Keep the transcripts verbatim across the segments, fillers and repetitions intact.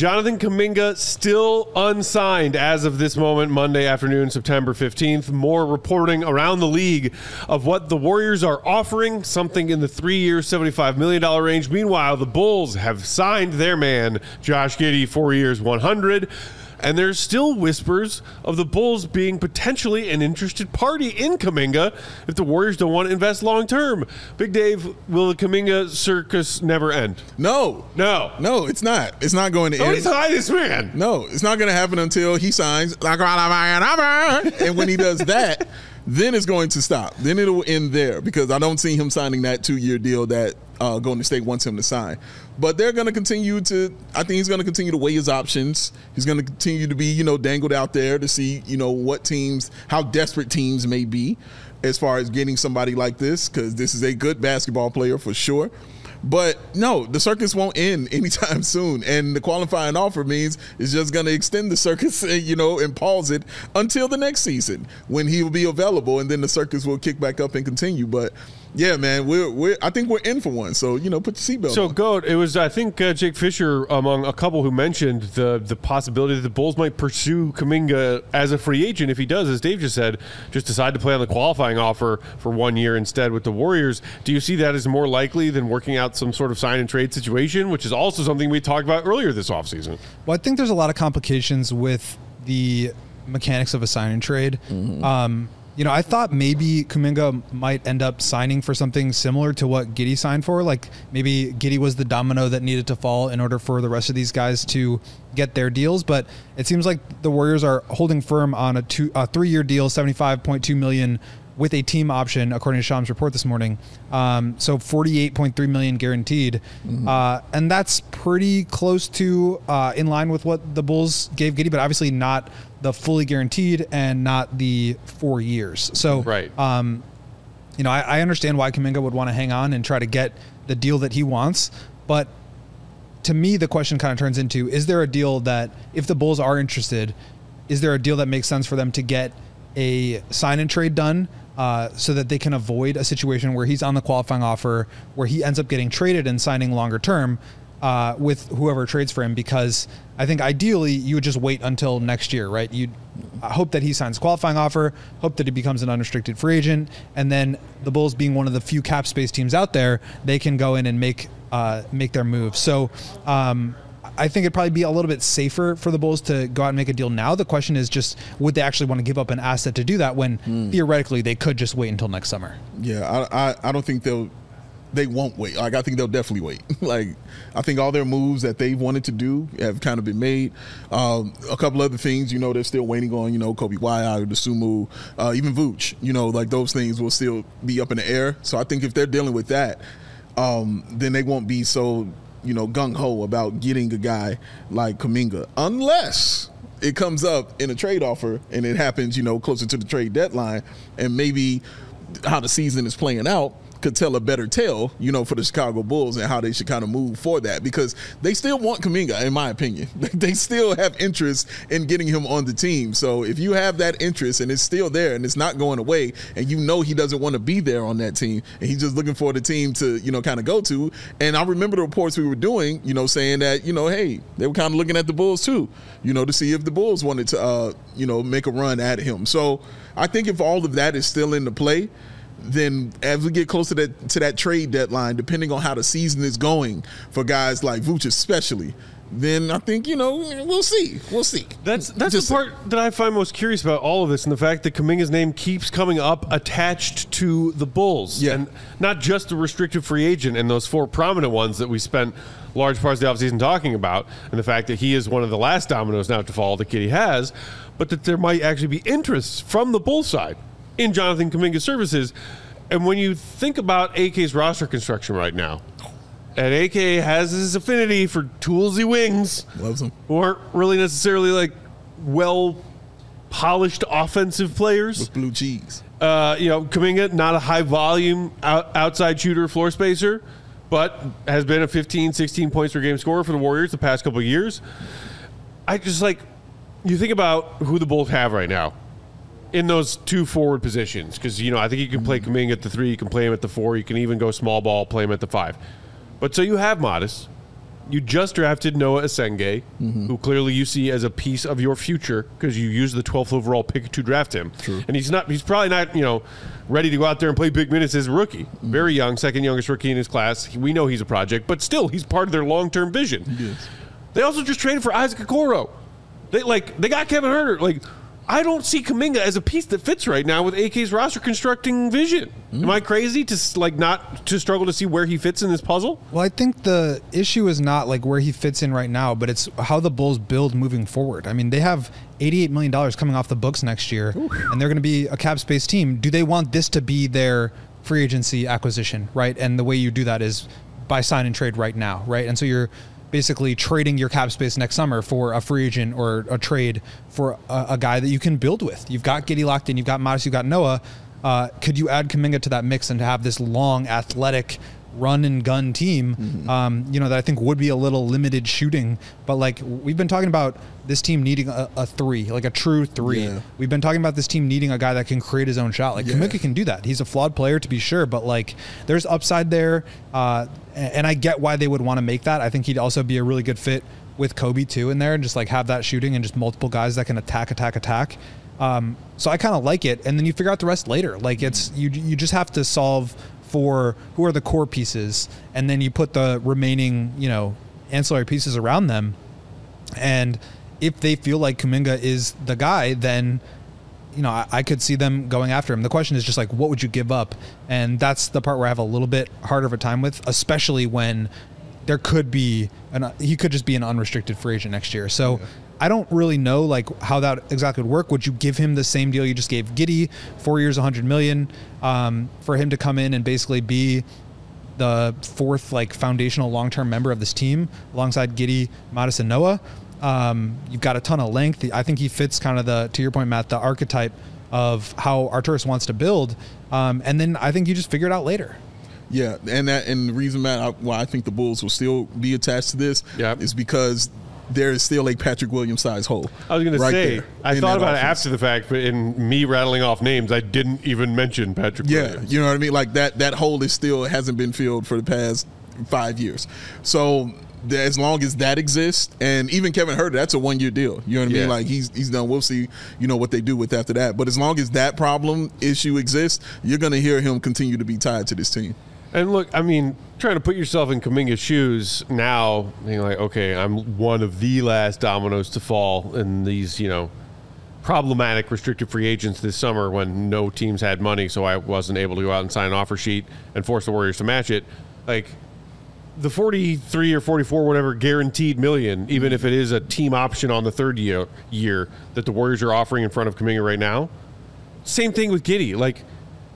Jonathan Kuminga still unsigned as of this moment, Monday afternoon, September fifteenth. More reporting around the league of what the Warriors are offering, something in the three-year, seventy-five million dollars range. Meanwhile, the Bulls have signed their man, Josh Giddey, four years, one hundred. And there's still whispers of the Bulls being potentially an interested party in Kuminga if the Warriors don't want to invest long-term. Big Dave, will the Kuminga circus never end? No. No. No, it's not. It's not going to end. Nobody's high this man. No, it's not going to happen until he signs. And when he does that, then it's going to stop. Then it'll end there because I don't see him signing that two-year deal that uh, Golden State wants him to sign. But they're going to continue to – I think he's going to continue to weigh his options. He's going to continue to be, you know, dangled out there to see, you know, what teams – how desperate teams may be as far as getting somebody like this, because this is a good basketball player for sure. But no, the circus won't end anytime soon. And the qualifying offer means it's just going to extend the circus, you know, and pause it until the next season when he will be available. And then the circus will kick back up and continue. But yeah, man, we're, we're I think we're in for one. So, you know, put your seatbelt so, on. So, Goat, it was, I think, uh, Jake Fisher among a couple who mentioned the the possibility that the Bulls might pursue Kuminga as a free agent if he does, as Dave just said, just decide to play on the qualifying offer for one year instead with the Warriors. Do you see that as more likely than working out some sort of sign and trade situation, which is also something we talked about earlier this offseason? Well, I think there's a lot of complications with the mechanics of a sign and trade. Mm-hmm. Um, you know, I thought maybe Kuminga might end up signing for something similar to what Giddey signed for. Like maybe Giddey was the domino that needed to fall in order for the rest of these guys to get their deals. But it seems like the Warriors are holding firm on a two, a three-year deal, seventy-five point two million dollars with a team option, according to Sham's report this morning. Um, so forty-eight point three million dollars guaranteed. Mm-hmm. Uh, and that's pretty close to uh, in line with what the Bulls gave Giddey, but obviously not the fully guaranteed and not the four years. So, right. um, you know, I, I understand why Kuminga would want to hang on and try to get the deal that he wants. But to me, the question kind of turns into, is there a deal that, if the Bulls are interested, is there a deal that makes sense for them to get a sign and trade done uh, so that they can avoid a situation where he's on the qualifying offer, where he ends up getting traded and signing longer term uh, with whoever trades for him? Because I think ideally you would just wait until next year, right? You'd hope that he signs a qualifying offer, hope that he becomes an unrestricted free agent, and then the Bulls, being one of the few cap space teams out there, they can go in and make uh, make their moves. So um, I think it'd probably be a little bit safer for the Bulls to go out and make a deal now. The question is just, would they actually want to give up an asset to do that when mm. theoretically they could just wait until next summer? Yeah, I, I, I don't think they'll they won't wait. Like, I think they'll definitely wait. Like, I think all their moves that they've wanted to do have kind of been made. Um, a couple other things, you know, they're still waiting on, you know, Kobe White, the Sumu, uh, even Vooch, you know, like those things will still be up in the air. So I think if they're dealing with that, um, then they won't be so, you know, gung-ho about getting a guy like Kuminga, unless it comes up in a trade offer and it happens, you know, closer to the trade deadline, and maybe how the season is playing out could tell a better tale, you know, for the Chicago Bulls and how they should kind of move for that, because they still want Kuminga, in my opinion. They still have interest in getting him on the team. So if you have that interest and it's still there and it's not going away, and you know he doesn't want to be there on that team and he's just looking for the team to, you know, kind of go to. And I remember the reports we were doing, you know, saying that, you know, hey, they were kind of looking at the Bulls too, you know, to see if the Bulls wanted to, uh, you know, make a run at him. So I think if all of that is still in the play, then as we get closer to that, to that trade deadline, depending on how the season is going for guys like Vooch especially, then I think, you know, we'll see. We'll see. That's that's Just the part say. that I find most curious about all of this, and the fact that Kuminga's name keeps coming up attached to the Bulls. Yeah. And not just the restricted free agent and those four prominent ones that we spent large parts of the offseason talking about, and the fact that he is one of the last dominoes now to fall that Giddey has, but that there might actually be interest from the Bulls side in Jonathan Kuminga's services. And when you think about A K's roster construction right now, and A K has his affinity for toolsy wings, loves them, who aren't really necessarily like well polished offensive players with blue cheese. Uh, you know, Kuminga, not a high volume out, outside shooter, floor spacer, but has been a fifteen, sixteen points per game scorer for the Warriors the past couple of years. I just like, you think about who the Bulls have right now in those two forward positions, because, you know, I think you can play Kuminga at the three, you can play him at the four, you can even go small ball, play him at the five. But so you have Modest, You just drafted Noah Asenge, Mm-hmm. who clearly you see as a piece of your future because you used the twelfth overall pick to draft him. True. And he's not. He's probably not. You know, ready to go out there and play big minutes as a rookie. Mm-hmm. Very young, second youngest rookie in his class. We know he's a project, but still, he's part of their long-term vision. He is. They also just traded for Isaac Okoro. They like they got Kevin Huerter. Like, I don't see Kuminga as a piece that fits right now with A K's roster constructing vision. Mm. Am I crazy to like not to struggle to see where he fits in this puzzle? Well, I think the issue is not like where he fits in right now, but it's how the Bulls build moving forward. I mean, they have eighty-eight million dollars coming off the books next year, Oof. and they're going to be a cap space team. Do they want this to be their free agency acquisition, right? And the way you do that is by sign and trade right now, right? And so you're basically trading your cap space next summer for a free agent or a trade for a, a guy that you can build with. You've got Giddey locked in, you've got Modest, you've got Noah. Uh, could you add Kuminga to that mix and to have this long, athletic, run and gun team, mm-hmm. um, you know, that I think would be a little limited shooting. But like we've been talking about this team needing a, a three, like a true three. Yeah. We've been talking about this team needing a guy that can create his own shot. Like yeah. Kuminga can do that. He's a flawed player to be sure, but like there's upside there. Uh, and I get why they would want to make that. I think he'd also be a really good fit with Kobe too in there and just like have that shooting and just multiple guys that can attack, attack, attack. Um, so I kind of like it. And then you figure out the rest later. Like it's, you, you just have to solve for who are the core pieces, and then you put the remaining, you know, ancillary pieces around them. And if they feel like Kuminga is the guy, then, you know, I, I could see them going after him. The question is just like, what would you give up? And that's the part where I have a little bit harder of a time with, especially when there could be an, he could just be an unrestricted free agent next year. So yeah. I don't really know like how that exactly would work. Would you give him the same deal you just gave Giddey, four years, a hundred million, um, for him to come in and basically be the fourth like foundational long-term member of this team alongside Giddey, Modest, and Noah? Um, you've got a ton of length. I think he fits kind of the, to your point, Matt, the archetype of how Arturas wants to build. Um, and then I think you just figure it out later. Yeah, and that and the reason, Matt, I, why I think the Bulls will still be attached to this yep. is because there is still a Patrick Williams size hole. I was going right to say, I thought about offense. it after the fact, but in me rattling off names, I didn't even mention Patrick yeah, Williams. You know what I mean? Like that that hole is still hasn't been filled for the past five years. So as long as that exists, and even Kevin Huerter, that's a one year deal. You know what I yeah. mean? Like he's he's done. We'll see, you know, what they do with after that. But as long as that problem issue exists, you're going to hear him continue to be tied to this team. And look, I mean, trying to put yourself in Kuminga's shoes now, being like, okay, I'm one of the last dominoes to fall in these, you know, problematic restricted free agents this summer when no teams had money, so I wasn't able to go out and sign an offer sheet and force the Warriors to match it. Like, the forty-three or forty-four, whatever, guaranteed million, even if it is a team option on the third year, year that the Warriors are offering in front of Kuminga right now, same thing with Giddey. Like,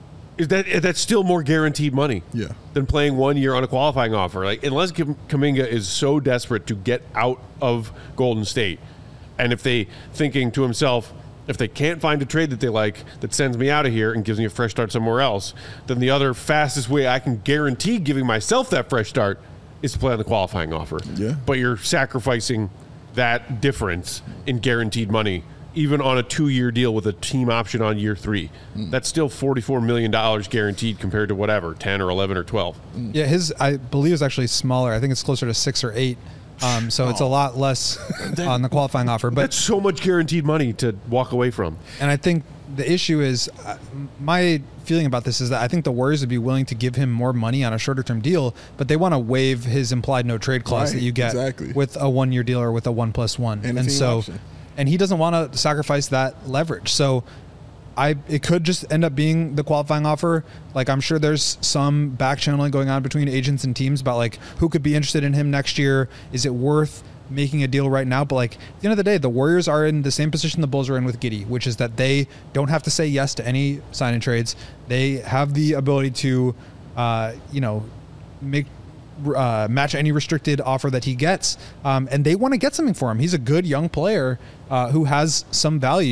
is that that's still more guaranteed money yeah. than playing one year on a qualifying offer. Like, unless Kuminga is so desperate to get out of Golden State, and if they thinking to himself, if they can't find a trade that they like that sends me out of here and gives me a fresh start somewhere else, then the other fastest way I can guarantee giving myself that fresh start is to play on the qualifying offer. Yeah. But you're sacrificing that difference in guaranteed money even on a two-year deal with a team option on year three. Mm. That's still forty-four million dollars guaranteed compared to whatever, ten or eleven or twelve. Mm. Yeah, his, I believe, is actually smaller. I think it's closer to six or eight. Um, so oh. it's a lot less that, on the qualifying offer. But that's so much guaranteed money to walk away from. And I think the issue is, uh, my feeling about this is that I think the Warriors would be willing to give him more money on a shorter-term deal, but they want to waive his implied no-trade clause right, that you get exactly. with a one-year deal or with a one plus one. And, and so, option. and he doesn't want to sacrifice that leverage. So I, it could just end up being the qualifying offer. Like, I'm sure there's some back channeling going on between agents and teams about like who could be interested in him next year. Is it worth making a deal right now? But like at the end of the day, the Warriors are in the same position the Bulls are in with Giddey, which is that they don't have to say yes to any signing trades. They have the ability to, uh, you know, make uh, match any restricted offer that he gets, um, and they want to get something for him. He's a good young player uh, who has some value,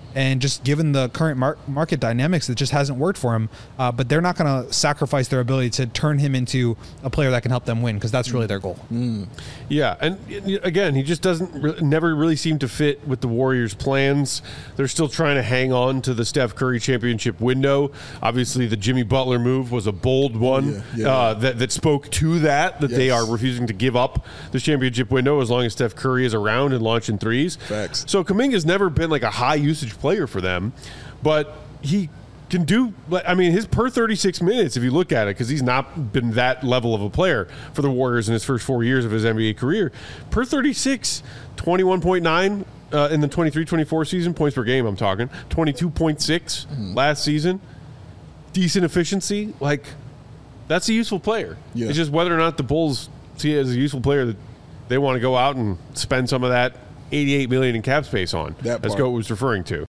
And just given the current mar- market dynamics, it just hasn't worked for him. Uh, but they're not going to sacrifice their ability to turn him into a player that can help them win, because that's really their goal. Mm. Yeah, and again, he just doesn't re- never really seem to fit with the Warriors' plans. They're still trying to hang on to the Steph Curry championship window. Obviously, the Jimmy Butler move was a bold one Yeah, yeah. Uh, that that spoke to that that they Yes. are refusing to give up the championship window as long as Steph Curry is around and launching threes. Facts. So Kuminga's never been like a high usage player for them, but he can do, I mean, his per thirty-six minutes, if you look at it, because he's not been that level of a player for the Warriors in his first four years of his N B A career, per thirty-six, twenty-one point nine uh, in the twenty-three twenty-four season, points per game I'm talking, twenty-two point six Mm-hmm. last season, decent efficiency, like, that's a useful player. Yeah. It's just whether or not the Bulls see it as a useful player that they want to go out and spend some of that eighty-eight million dollars in cap space on, That as part. Goat was referring to.